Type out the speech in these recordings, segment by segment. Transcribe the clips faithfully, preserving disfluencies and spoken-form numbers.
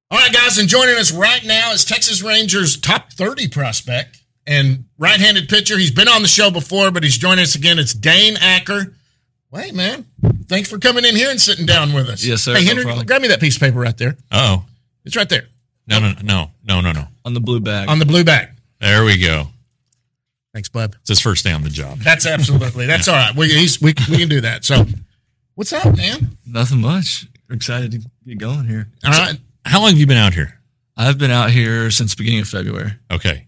All right, guys, and joining us right now is Texas Rangers top thirty prospect and right-handed pitcher. He's been on the show before, but he's joining us again. It's Dane Acker. Wait, man. Thanks for coming in here and sitting down with us. Yes, sir. Hey, no Henry, problem. grab me that piece of paper right there. Oh, It's right there no, no, no, no, no, no. On the blue bag. on the blue bag. There we go. Thanks, bud. It's his first day on the job. That's absolutely. That's all right. We, he's, we, we can do that. So, what's up, man? Nothing much. Excited to get going here. All right. How long have you been out here? I've been out here since the beginning of February. Okay.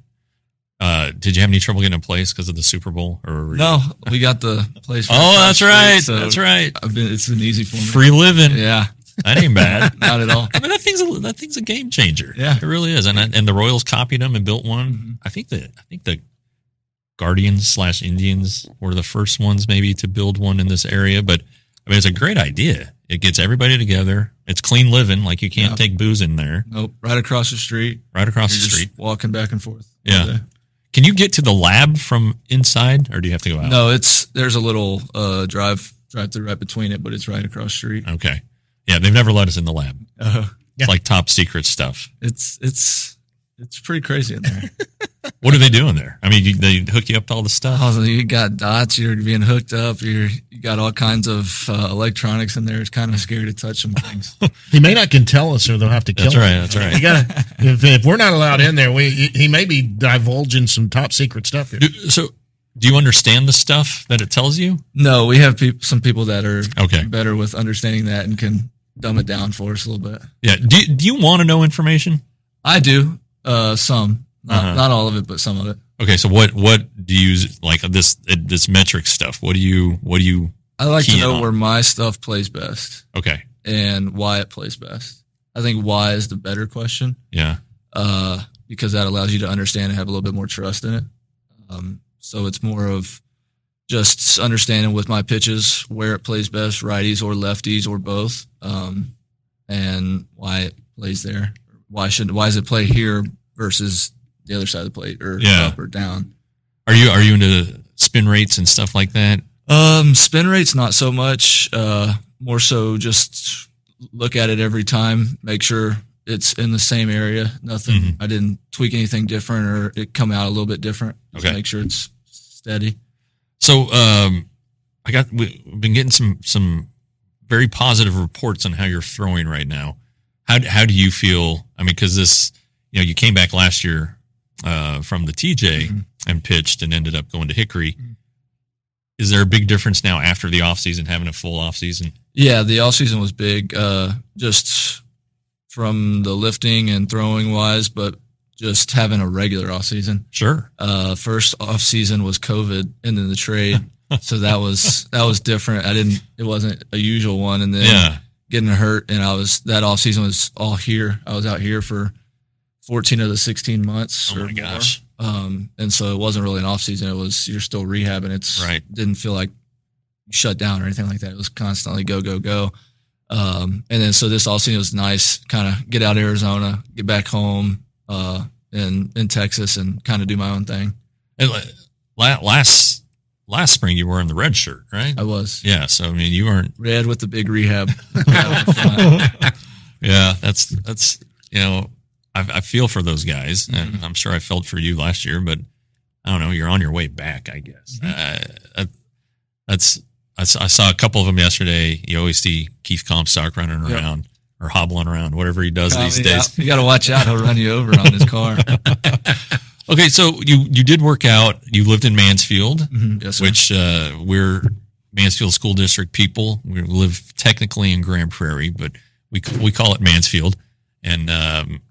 Uh, did you have any trouble getting a place because of the Super Bowl? Or were you- No, we got the place. Oh, across that's the right. street, so That's right. I've been. It's been easy for me. Free living. Yeah, That ain't bad. not at all. I mean, that thing's a, that thing's a game changer. Yeah. It really is. And and the Royals copied them and built one. Mhm. I think that I think the Guardians slash Indians were the first ones maybe to build one in this area. But I mean, it's a great idea. It gets everybody together. It's clean living. Like you can't Yeah. take booze in there. Nope. Right across the street. Right across You're the just street. walking back and forth. all Yeah. day. Can you get to the lab from inside, or do you have to go out? No, it's there's a little uh, drive drive through right between it, but it's right across the street. Okay. Yeah, they've never let us in the lab. Uh, It's like top secret stuff. it's it's it's pretty crazy in there. What are they doing there? I mean, you, they hook you up to all the stuff. Oh, you got dots. You're being hooked up. You're you got all kinds of uh, electronics in there. It's kind of scary to touch some things. He may not can tell us, or they'll have to kill That's him. right. That's right. You gotta, if, if we're not allowed in there, we he may be divulging some top secret stuff here. Do, so, do you understand the stuff that it tells you? No, we have peop some people that are Okay. better with understanding that and can dumb it down for us a little bit. Yeah. Do, do you want to know information? I do uh, some, not Uh-huh. not all of it, but some of it. Okay. So, what what do you use, like this this metric stuff? What do you what do you? I like Key to in know on. where my stuff plays best Okay. and why it plays best. I think why is the better question. Yeah. uh, because that allows you to understand and have a little bit more trust in it. Um, so it's more of just understanding with my pitches where it plays best, righties or lefties or both, um, and why it plays there. Why should why does it play here versus the other side of the plate or Yeah. up or down? Are you are you into spin rates and stuff like that? Um, spin rates not so much. Uh, more so just look at it every time, make sure it's in the same area. Nothing. Mhm. I didn't tweak anything different or it come out a little bit different. Just Okay. make sure it's steady. So, um, I got we- we've been getting some some very positive reports on how you're throwing right now. How how do you feel? I mean, because this, you know, you came back last year uh, from the T J Mhm. and pitched and ended up going to Hickory. Is there a big difference now after the offseason, having a full offseason? Yeah, the off season was big. Uh, just from the lifting and throwing wise, but just having a regular off season. Sure. Uh, first off season was COVID and then the trade. So that was, that was different. I didn't, it wasn't a usual one. And then Yeah. getting hurt. And I was, that off season was all here. I was out here for fourteen of the sixteen months. Oh or my more. gosh. Um, and so it wasn't really an off season. It was, you're still rehabbing. It's Right. didn't feel like you shut down or anything like that. It was constantly go, go, go. Um, and then so this all season was nice, kind of get out of Arizona, get back home, uh, in, in Texas and kind of do my own thing. And la- last last spring you were in the red shirt, right? I was Yeah. So I mean, you weren't. red with the big rehab. Right up front. Yeah. That's that's you know, I, I feel for those guys, Mm-hmm. and I'm sure I felt for you last year, but I don't know. You're on your way back, I guess. Mm-hmm. Uh, that's I saw, I saw a couple of them yesterday. You always see Keith Comstock running Yep. around or hobbling around, whatever he does these I mean, days. You got to watch out. He'll run you over on his car. Okay, so you you did work out. You lived in Mansfield, Mhm. Yes, sir. which uh, we're Mansfield School District people. We live technically in Grand Prairie, but we we call it Mansfield, and um,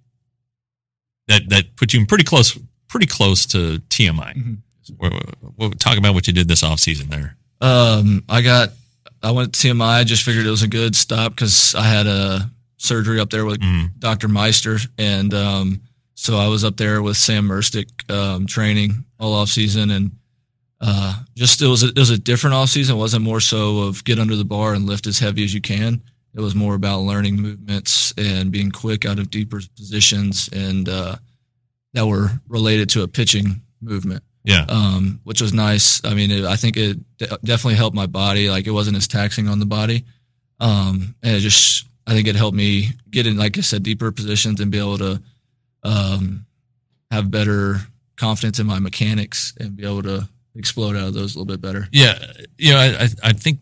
that that put you in pretty close pretty close to T M I. Mhm. We'll, we'll talk about what you did this off season there. Um, I got, I went to T M I. I just figured it was a good stop because I had a surgery up there with Mm. Doctor Meister. And, um, so I was up there with Sam Merstick, um, training all off season and, uh, just, it was, a, it was a different off season. It wasn't more so of get under the bar and lift as heavy as you can. It was more about learning movements and being quick out of deeper positions and, uh, that were related to a pitching movement. Yeah. Um, which was nice. I mean, it, I think it de- definitely helped my body. Like it wasn't as taxing on the body. Um, and it just, I think it helped me get in, like I said, deeper positions and be able to um, have better confidence in my mechanics and be able to explode out of those a little bit better. Yeah, you know, I, I think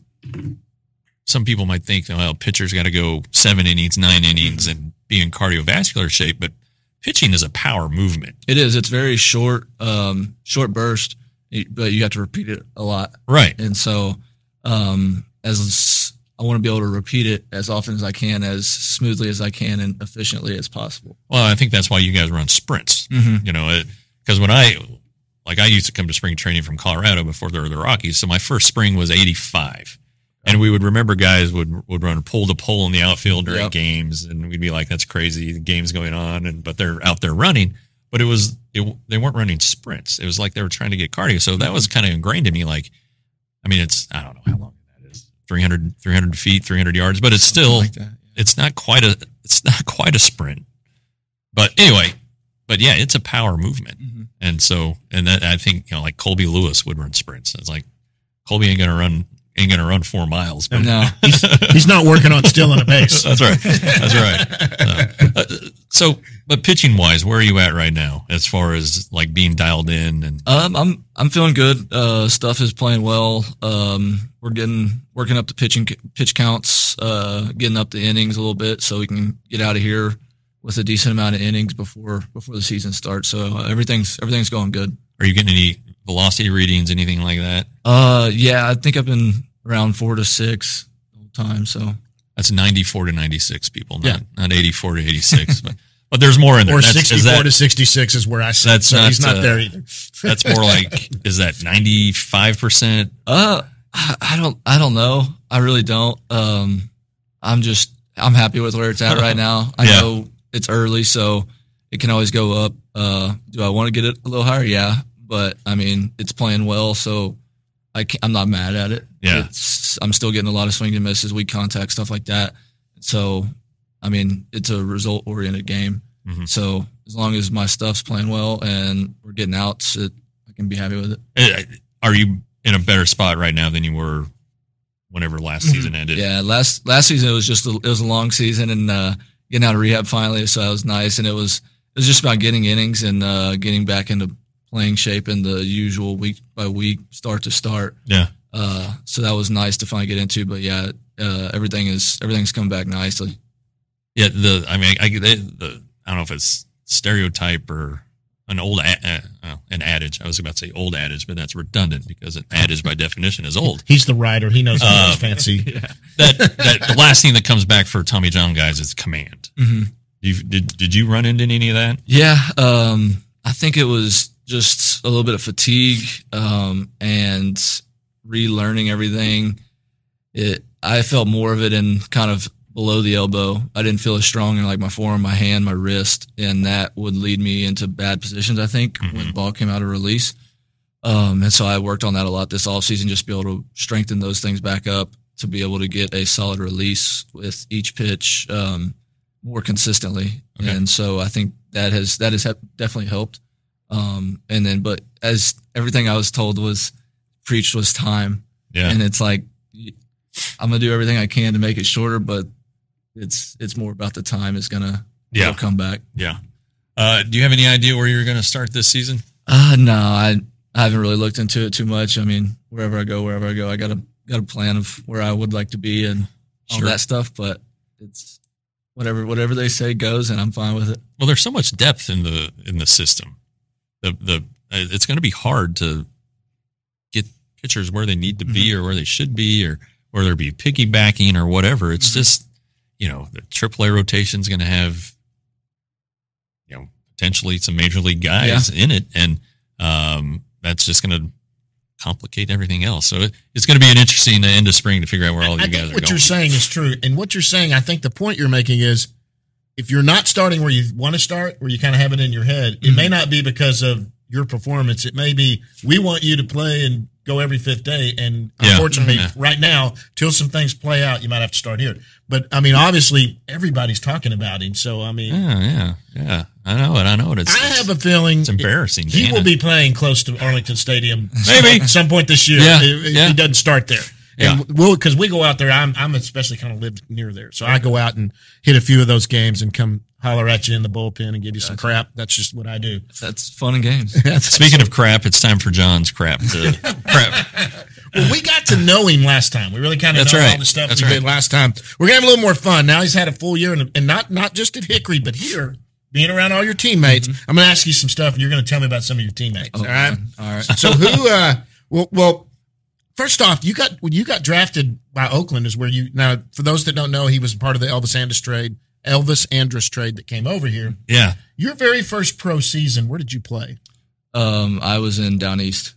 some people might think, well, pitcher's got to go seven innings, nine innings, and be in cardiovascular shape, but pitching is a power movement. It is. It's very short, um, short burst, but you have to repeat it a lot. Right. And so, um, as I want to be able to repeat it as often as I can, as smoothly as I can, and efficiently as possible. Well, I think that's why you guys run sprints. Mm-hmm. You know, because when I, like, I used to come to spring training from Colorado before there were the Rockies, so my first spring was eighty-five. And we would remember guys would would run pole to pole in the outfield during Yep. games, and we'd be like, "That's crazy, the game's going on," and but they're out there running. But it was it, they weren't running sprints. It was like they were trying to get cardio. So that was kind of ingrained in me. Like, I mean, it's I don't know how long that is three hundred, three hundred feet, three hundred yards, but it's still Like that, yeah. it's not quite a it's not quite a sprint. But anyway, but yeah, it's a power movement, Mm-hmm. and so and that I think you know like Colby Lewis would run sprints. It's like Colby ain't gonna run. Ain't gonna run four miles. But No. He's, he's not working on stealing a base. That's right. That's right. Uh, uh, so, but pitching wise, where are you at right now as far as like being dialed in? And Um, I'm I'm feeling good. Uh, stuff is playing well. Um, we're getting working up the pitching pitch counts, uh, getting up the innings a little bit, so we can get out of here with a decent amount of innings before before the season starts. So uh, everything's everything's going good. are you getting any velocity readings, anything like that? Uh, yeah, I think I've been around four to six the whole time. So That's ninety-four to ninety-six, people, not Yeah. not eighty-four to eighty-six. but but there's more in there. Or That's, is sixty-four that, to sixty-six is where I sit. That's So not, he's not uh, there either. that's more like is that ninety-five percent? Uh, I I don't, I don't know. I really don't. Um, I'm just, I'm happy with where it's at right now. I Yeah. know it's early, so it can always go up. Uh, do I want to get it a little higher? Yeah, but I mean, it's playing well, so I can't, I'm not mad at it. Yeah. It's, I'm still getting a lot of swing and misses, weak contact, stuff like that. So, I mean, it's a result oriented game. Mhm. So as long as my stuff's playing well and we're getting outs, it, I can be happy with it. Uh, Are you in a better spot right now than you were whenever last season ended? Yeah, last last season it was just a, it was a long season and uh, getting out of rehab finally, so that was nice. And it was it was just about getting innings and uh, getting back into playing shape in the usual week by week, start to start. Yeah. Uh, so that was nice to finally get into. But yeah, uh, everything is everything's come back nicely. Yeah, the I mean, I, they, the I don't know if it's stereotype or an old a, uh, an adage. I was about to say old adage, but that's redundant because an adage by definition is old. He's the writer. He knows Uh, uh, fancy. That that the last thing that comes back for Tommy John guys is command. Mm-hmm. You did did you run into any of that? Yeah, um, I think it was just a little bit of fatigue um, and relearning everything. It I felt more of it in kind of below the elbow. I didn't feel as strong in like my forearm, my hand, my wrist, and that would lead me into bad positions, I think, Mhm. when the ball came out of release. Um, and so I worked on that a lot this offseason, just to be able to strengthen those things back up to be able to get a solid release with each pitch um, more consistently. Okay. And so I think that has that has hep- definitely helped. Um, and then, but as everything I was told was preached was time. Yeah. And it's like, I'm going to do everything I can to make it shorter, but it's, it's more about the time it's going to Yeah. come back. Yeah. Uh, do you have any idea where you're going to start this season? Uh, no, I, I haven't really looked into it too much. I mean, wherever I go, wherever I go, I got a, got a plan of where I would like to be and all Sure. that stuff, but it's whatever, whatever they say goes and I'm fine with it. Well, there's so much depth in the in the system. The the it's going to be hard to get pitchers where they need to be or where they should be or where there be piggybacking or whatever. It's Mm-hmm. just, you know, the triple A rotation is going to have, you know, potentially some major league guys in it, and um, that's just going to complicate everything else. So it, it's going to be an interesting end of spring to figure out where all of I you guys think are what going. you're saying is true. And what you're saying, I think the point you're making is if you're not starting where you want to start, where you kind of have it in your head, it Mm-hmm. may not be because of your performance. It may be we want you to play and go every fifth day. And Yeah. unfortunately, Yeah. right now, till some things play out, you might have to start here. But I mean, obviously, everybody's talking about him. So, I mean, Yeah, yeah, yeah. I know it. I know it. It's, I have a feeling it's embarrassing. he Dana. will be playing close to Arlington Stadium Maybe. at some point this year Yeah, if, if yeah. he doesn't start there. And Yeah. we'll because we go out there. I'm I'm especially kind of live near there, so I go out and hit a few of those games and come holler at you in the bullpen and give you some crap. That's just what I do. That's fun and games. Speaking of crap, it's time for John's crap. To, crap. Well, we got to know him last time. We really kind of That's know right. all the stuff That's we right. did last time. We're gonna have a little more fun now. He's had a full year, and, and not not just at Hickory, but here, being around all your teammates. Mm-hmm. I'm gonna ask you some stuff, and you're gonna tell me about some of your teammates. Oh, all right. man. All right. So who? Uh, well, well, first off, you got when you got drafted by Oakland is where you now. For those that don't know, he was part of the Elvis Andrus trade. Elvis Andrus trade that came over here. Yeah. Your very first pro season, where did you play? Um, I was in Down East.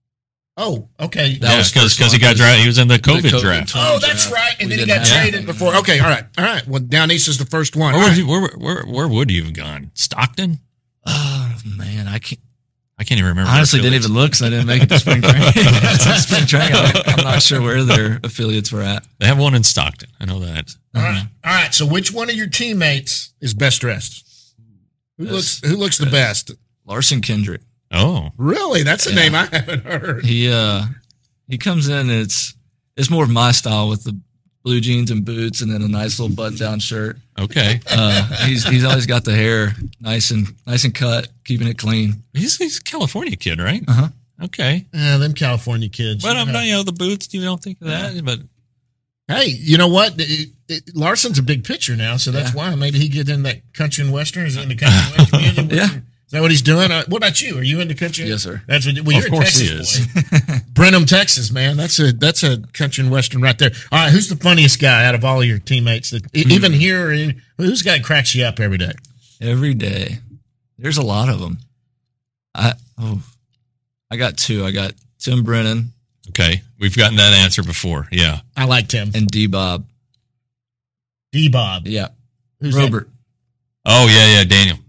Oh, okay. That Yeah, was because first he one, got 'cause drafted. He was in the the COVID, COVID draft. twenty Oh, that's draft. right. And We then he didn't got have- traded before. Okay, all right, all right. Well, Down East is the first one. Where, All would right. you, where, where, where would you have gone? Stockton? Oh man, I can't. I can't even remember. Honestly, their didn't even look because I didn't make it to spring training. spring training. I'm, I'm not sure where their affiliates were at. They have one in Stockton. I know that. All right, all right. So, which one of your teammates is best dressed? Who Best looks Who looks the best? Larson Kendrick. Oh, Really? That's a Yeah. name I haven't heard. He uh he comes in. And it's it's more of my style with the blue jeans and boots, and then a nice little button down shirt. okay. Uh, he's he's always got the hair nice and nice and cut, keeping it clean. He's, he's a California kid, right? Uh huh. Okay. Yeah, them California kids. But I'm Yeah. not, you know, the boots, you don't think of that. But Hey, you know what? It- it- Larson's a big pitcher now, so that's Yeah. why maybe he get in that country and western. Is he into country and western music? Yeah. Is that what he's doing? Uh, what about you? Are you into country? Yes, sir. That's what. Well, Of you're course a he Texas boy. Brenham, Texas, man. That's a that's a country and western right there. All right, who's the funniest guy out of all of your teammates? That e- even here, or who's the guy that cracks you up every day? Every day. There's a lot of them. I oh, I got two. I got Tim Brennan okay, we've gotten that answer before. Yeah. I like Tim. and D Bob. D Bob. Yeah, Who's Robert. Oh, yeah, yeah, Daniel.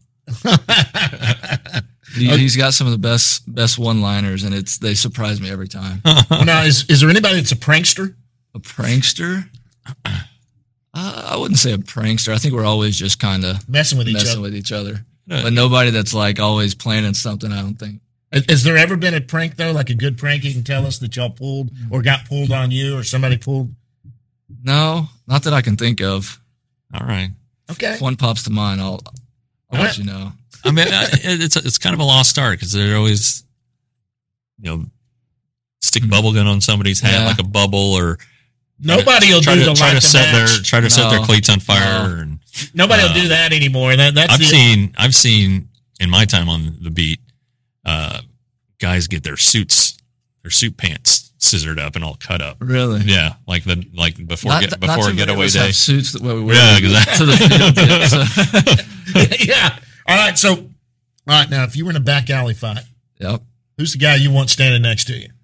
that? He, he's got some of the best best one liners, and it's they surprise me every time. Well, now, is is there anybody that's a prankster? A prankster? Uh, I wouldn't say a prankster. I think we're always just kind of Messing with each messing other. with each other, Uh, but nobody that's like always planning something. I don't think. Has, has there ever been a prank though, like a good prank you can tell us that y'all pulled or got pulled on you or somebody pulled? No, not that I can think of. All right. Okay. If one pops to mind, I'll, I'll All let right. you know. I mean, I- it's it's kind of a lost art because they're always, you know, stick bubble gun on somebody's hat Yeah. like a bubble, or Nobody will try do to the try light to the set match. their try to set their No. cleats on fire. No. And Nobody will uh, do that anymore. That that's I've the, seen I've seen in my time on the beat, uh, guys get their suits, their suit pants scissored up and all cut up. Really? Yeah, like the like before Not get, th- not before too many getaway of us day. have suits that we wear Yeah, exactly. to the field. yet, so. yeah. All right. So, all right. Now, if you were in a back alley fight, Yep. who's the guy you want standing next to you?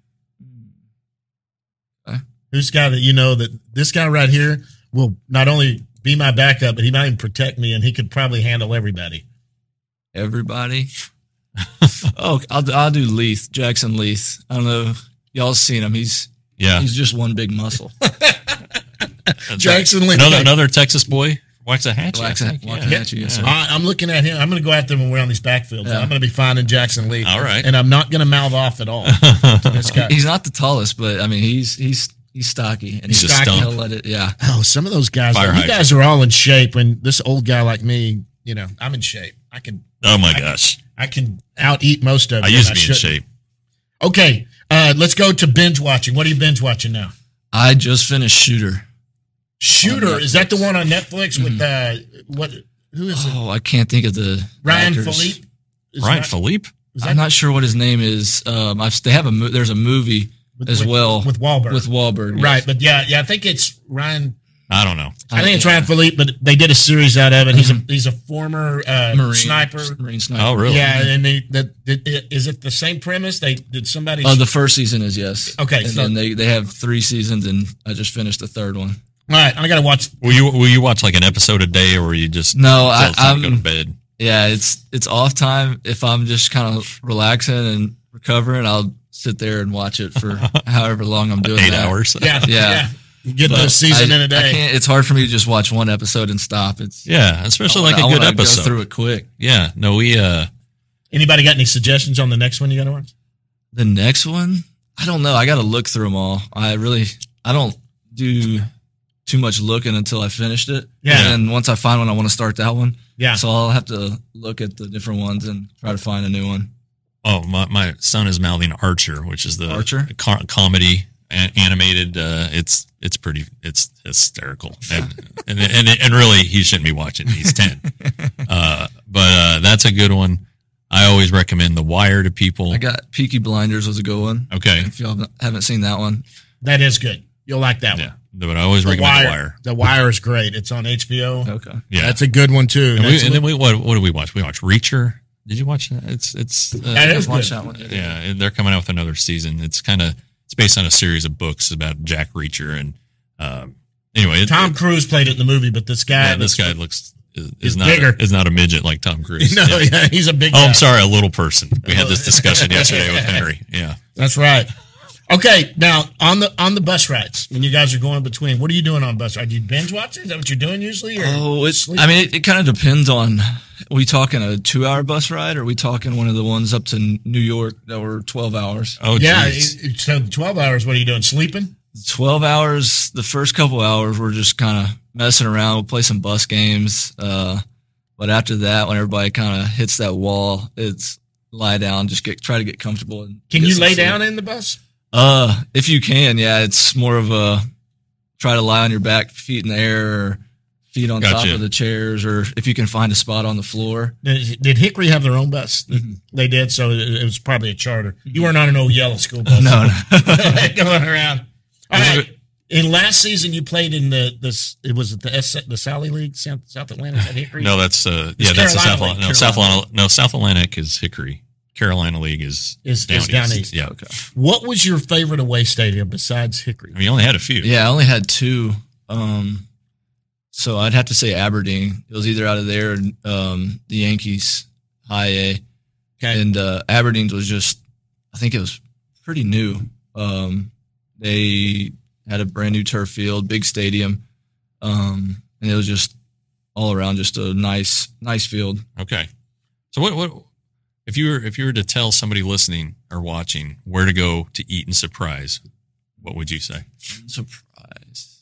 Okay. Who's the guy that you know that this guy right here will not only be my backup, but he might even protect me, and he could probably handle everybody. Everybody. oh, I'll I'll do Leith, Jackson Leith. I don't know. Y'all seen him? He's Yeah, he's just one big muscle. That's Jackson right. Lee. Another another Texas boy, Waxahachie. I Waxahachie, think. Yeah. Waxahachie, yes, sir. All right, I'm looking at him. I'm going to go out there when we're on these backfields. Yeah. I'm going to be finding Jackson Lee. All right. And I'm not going to mouth off at all to this guy. He's not the tallest, but I mean he's he's he's stocky and He's he's a stocky. stump. He'll let it. Yeah. Oh, some of those guys, Fire you hydrant. guys are all in shape. When this old guy like me, you know, I'm in shape. I can, Oh my I- gosh, I can out eat most of it. I used to and be in shouldn't. shape. Okay, uh, let's go to binge watching. What are you binge watching now? I just finished Shooter. Shooter, On is that the Netflix. one on Netflix with uh, what? Who is it? Oh, I can't think of the Ryan actors. Philippe. Is Ryan that- Philippe. is that I'm not sure what his name is. Um, I've, they have a mo- there's a movie with- as with- well with Wahlberg. with Wahlberg. right, yes. but yeah, yeah, I think it's Ryan. I don't know. I think it's yeah. Ryan Philippe, but they did a series out of it. He's a he's a former uh, Marine sniper. Marine sniper. Oh really? Yeah, and they that did, is it the same premise? They did somebody. Oh, the first season is yes. Okay, and so- then they they have three seasons, and I just finished the third one. All right, I got to watch. Will you will you watch like an episode a day, or you just No, till I, it's time to go to I'm bed? yeah. It's it's off time. If I'm just kind of relaxing and recovering, I'll sit there and watch it for however long I'm doing Eight that. hours. Yeah, Yeah. You get But the season I, in a I day. can't, it's hard for me to just watch one episode and stop. It's Yeah, especially I like wanna- a good I wanna episode. Go through it quick. Yeah, no, we uh, Anybody got any suggestions on the next one you got to watch? The next one, I don't know. I got to look through them all. I really, I don't do too much looking until I finished it. Yeah. And once I find one, I want to start that one. Yeah. So I'll have to look at the different ones and try to find a new one. Oh, my, my son is mouthing Archer, which is the Archer? co- comedy a- animated. Uh, it's it's pretty it's hysterical, and and, and and really he shouldn't be watching. He's ten, uh, but uh, that's a good one. I always recommend The Wire to people. I got Peaky Blinders was a good one. Okay, If y'all haven't seen that one, That is good. You'll like that yeah, one. but I always The recommend Wire, The Wire. The Wire is great. It's on H B O. okay. Yeah, That's a good one too. and, we, That's- and then we what what did we watch? We watched Reacher. Did you watch that? It's it's uh, That is Watch good. that one. yeah, and they're coming out with another season. It's kind of it's based on a series of books about Jack Reacher, and um, anyway, it, Tom it, Cruise played it in the movie, but this guy, yeah, this guy looks is, He's is not bigger. a, is not a midget like Tom Cruise. no, Yeah. yeah, he's a big. Oh, guy. I'm sorry, a little person. We had this discussion yesterday with Henry. Yeah, That's right. Okay, now on the on the bus rides, when you guys are going between, what are you doing on bus rides? Do you binge watch it? Is that what you're doing usually? Or Oh, it's. sleep? I mean, it, it kind of depends on. Are we talking a two-hour bus ride, or are we talking one of the ones up to New York that were twelve hours? oh yeah. geez. it- So twelve hours. What are you doing? Sleeping? twelve hours. The first couple hours, we're just kind of messing around. We'll play some bus games. Uh, but after that, when everybody kind of hits that wall, it's lie down, just get try to get comfortable. And Can get you some lay sleep. down in the bus? Uh, if you can, yeah. It's more of a try to lie on your back, feet in the air, or feet on top Gotcha. of the chairs, or if you can find a spot on the floor. Did, did Hickory have their own bus? Mhm. They did, so it, it was probably a charter. You weren't on an old yellow school bus. No, no. going around. All right. In last season, you played in the this. It was it the S, the Sally League, South, South Atlantic at Hickory. No, that's uh, It's yeah, that's the Carolina South. League, No, Carolina. South Atlantic. No, South Atlantic is Hickory. Carolina League is Is- down is down east. east. Yeah, Okay. What was your favorite away stadium besides Hickory? I mean, you only had a few. Yeah, I only had two. Um, so I'd have to say Aberdeen. It was either out of there or um, the Yankees High A. Okay. And uh, Aberdeen's was just, I think it was pretty new. Um, they had a brand new turf field, big stadium, um, and it was just all around just a nice, nice field. Okay. So what what if you were if you were to tell somebody listening or watching where to go to eat and surprise, what would you say? Surprise.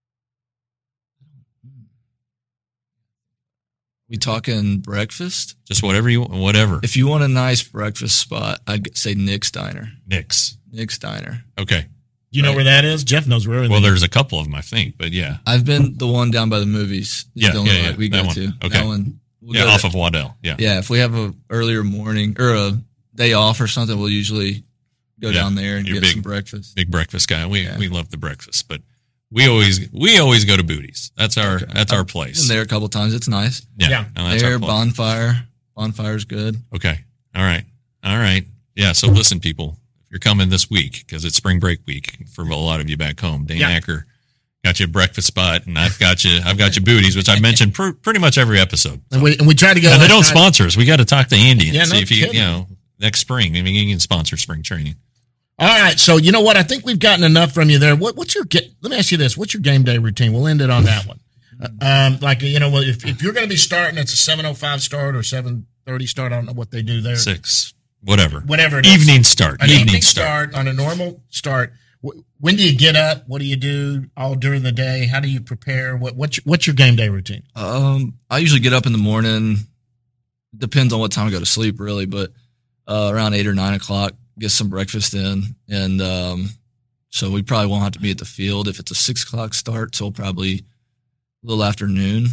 We talking breakfast? Just whatever you whatever. If you want a nice breakfast spot, I'd say Nick's Diner. Nick's. Nick's Diner. Okay. Do you know Right. where that is? Jeff knows where everything Well, is. there's a couple of them, I think, but yeah, I've been the one down by the movies. It's Yeah, the only yeah, yeah. one we That go one. to. Okay. That one. We'll yeah, go off to- of Waddell. Yeah. Yeah, if we have a earlier morning or a day off or something, we'll usually go Yeah, down there and you're get big. some breakfast. Big breakfast guy. We Yeah. we love the breakfast, but we always we always go to Booties. That's our Okay. that's our Been place. there a couple times. It's nice. Yeah. Yeah. No, that's There, our place. bonfire. Bonfire's good. Okay. All right. All right. Yeah. So listen, people, if you're coming this week, because it's spring break week for a lot of you back home, Dane Yeah. Acker got you a breakfast spot, and I've got you, I've got you Booties, which I mentioned pr- pretty much every episode. and we and we tried to go. And they last don't night. sponsor us. We got to talk to Andy and Yeah, see no if he, kidding. you know, next spring. I mean, he can sponsor spring training. All right, so you know what? I think we've gotten enough from you there. What, what's your get? Let me ask you this: what's your game day routine? We'll end it on that one. Uh, um, like you know, if if you're going to be starting, it's a seven oh five start or seven thirty start. I don't know what they do there. Six, whatever. Whatever it is. Evening start. An Evening, evening start. start on a normal start. Wh- When do you get up? What do you do all during the day? How do you prepare? What what's your, what's your game day routine? Um, I usually get up in the morning. Depends on what time I go to sleep, really, but uh, around eight or nine o'clock, get some breakfast in, and um, so we probably won't have to be at the field if it's a six o'clock start till probably a little after noon.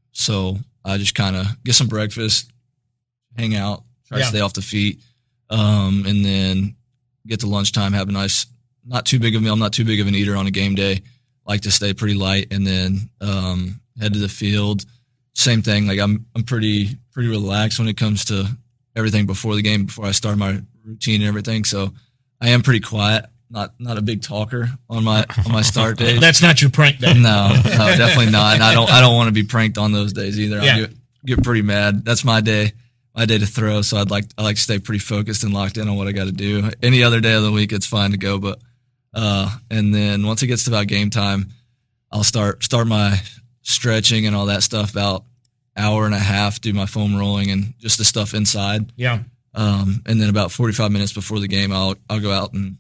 So I just kind of get some breakfast, hang out, try Yeah. to stay off the feet, um, and then get to lunchtime, have a nice, not too big of a meal. I'm not too big of an eater on a game day. Like to stay pretty light, and then um, head to the field. Same thing. Like I'm, I'm pretty, pretty relaxed when it comes to everything before the game, before I start my routine and everything. So I am pretty quiet. Not, not a big talker on my, on my start days. That's not your prank day. No, no, definitely not. And I don't, I don't want to be pranked on those days either. Yeah. I get, get pretty mad. That's my day, my day to throw. So I'd like, I like to stay pretty focused and locked in on what I got to do. Any other day of the week, it's fine to go. But, uh, and then once it gets to about game time, I'll start, start my stretching and all that stuff about hour and a half, do my foam rolling and just the stuff inside. Yeah. Um, and then about forty-five minutes before the game, I'll, I'll go out and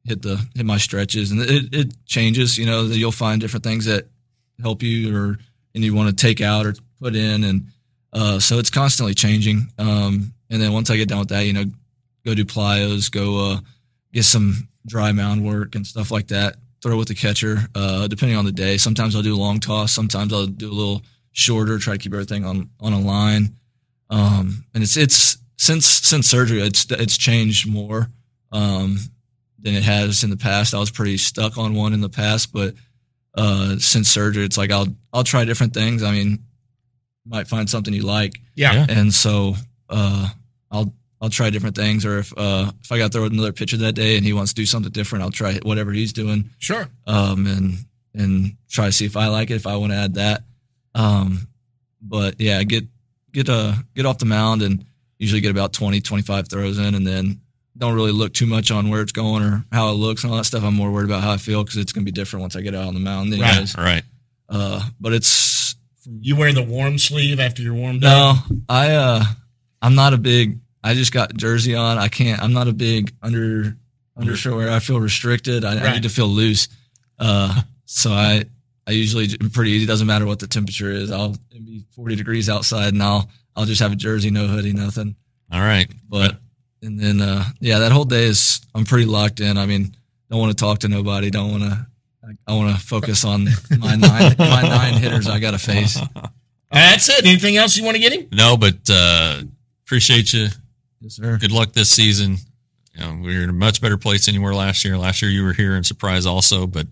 hit the hit my stretches, and it, it changes. You know, you'll find different things that help you, or and you want to take out or put in, and uh, so it's constantly changing. Um, and then once I get done with that, you know, go do plyos, go uh, get some dry mound work and stuff like that. Throw with the catcher, uh, depending on the day. Sometimes I'll do a long toss. Sometimes I'll do a little shorter, try to keep everything on, on a line. Um, and it's, it's since, since surgery, it's, it's changed more, um, than it has in the past. I was pretty stuck on one in the past, but, uh, since surgery, it's like, I'll, I'll try different things. I mean, you might find something you like. Yeah. Yeah. And so, uh, I'll, I'll try different things, or if uh, if I got to throw another pitcher that day and he wants to do something different, I'll try whatever he's doing. Sure. Um, and and try to see if I like it, if I want to add that. Um, but yeah, get get uh get off the mound and usually get about twenty, twenty-five throws in, and then don't really look too much on where it's going or how it looks and all that stuff. I'm more worried about how I feel because it's going to be different once I get out on the mound. Anyways. Right. Right. Uh, but it's You wear the warm sleeve after you're warmed no, up? I uh, I'm not a big. I just got jersey on. I can't. I'm not a big under undershirt. I feel restricted. I, Right. I need to feel loose. Uh, so I I usually pretty easy. Doesn't matter what the temperature is. I'll it'll be forty degrees outside, and I'll I'll just have a jersey, no hoodie, nothing. All right. But and then uh, yeah, that whole day is I'm pretty locked in. I mean, don't want to talk to nobody. Don't want to. I want to focus on my nine my nine hitters I got to face. That's it. Anything else you want to get him? No, but uh, appreciate you. Yes, sir. Good luck this season. You know, we were in a much better place than you were last year. Last year you were here in surprise also, but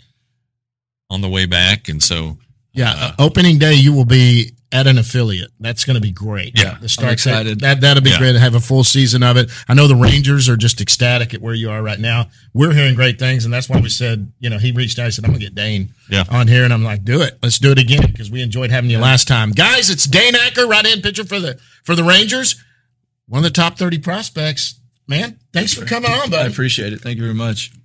on the way back. And so, Yeah. uh, Opening day, you will be at an affiliate. That's going to be great. Yeah. The start I'm excited. That, that'll be Yeah. great to have a full season of it. I know the Rangers are just ecstatic at where you are right now. We're hearing great things, and that's why we said, you know, he reached out and said, I'm going to get Dane Yeah. on here. And I'm like, do it. Let's do it again because we enjoyed having you last time. Guys, it's Dane Acker, right-hand pitcher for the for the Rangers. One of the top thirty prospects. Man, thanks for coming on, I buddy. appreciate it. Thank you very much.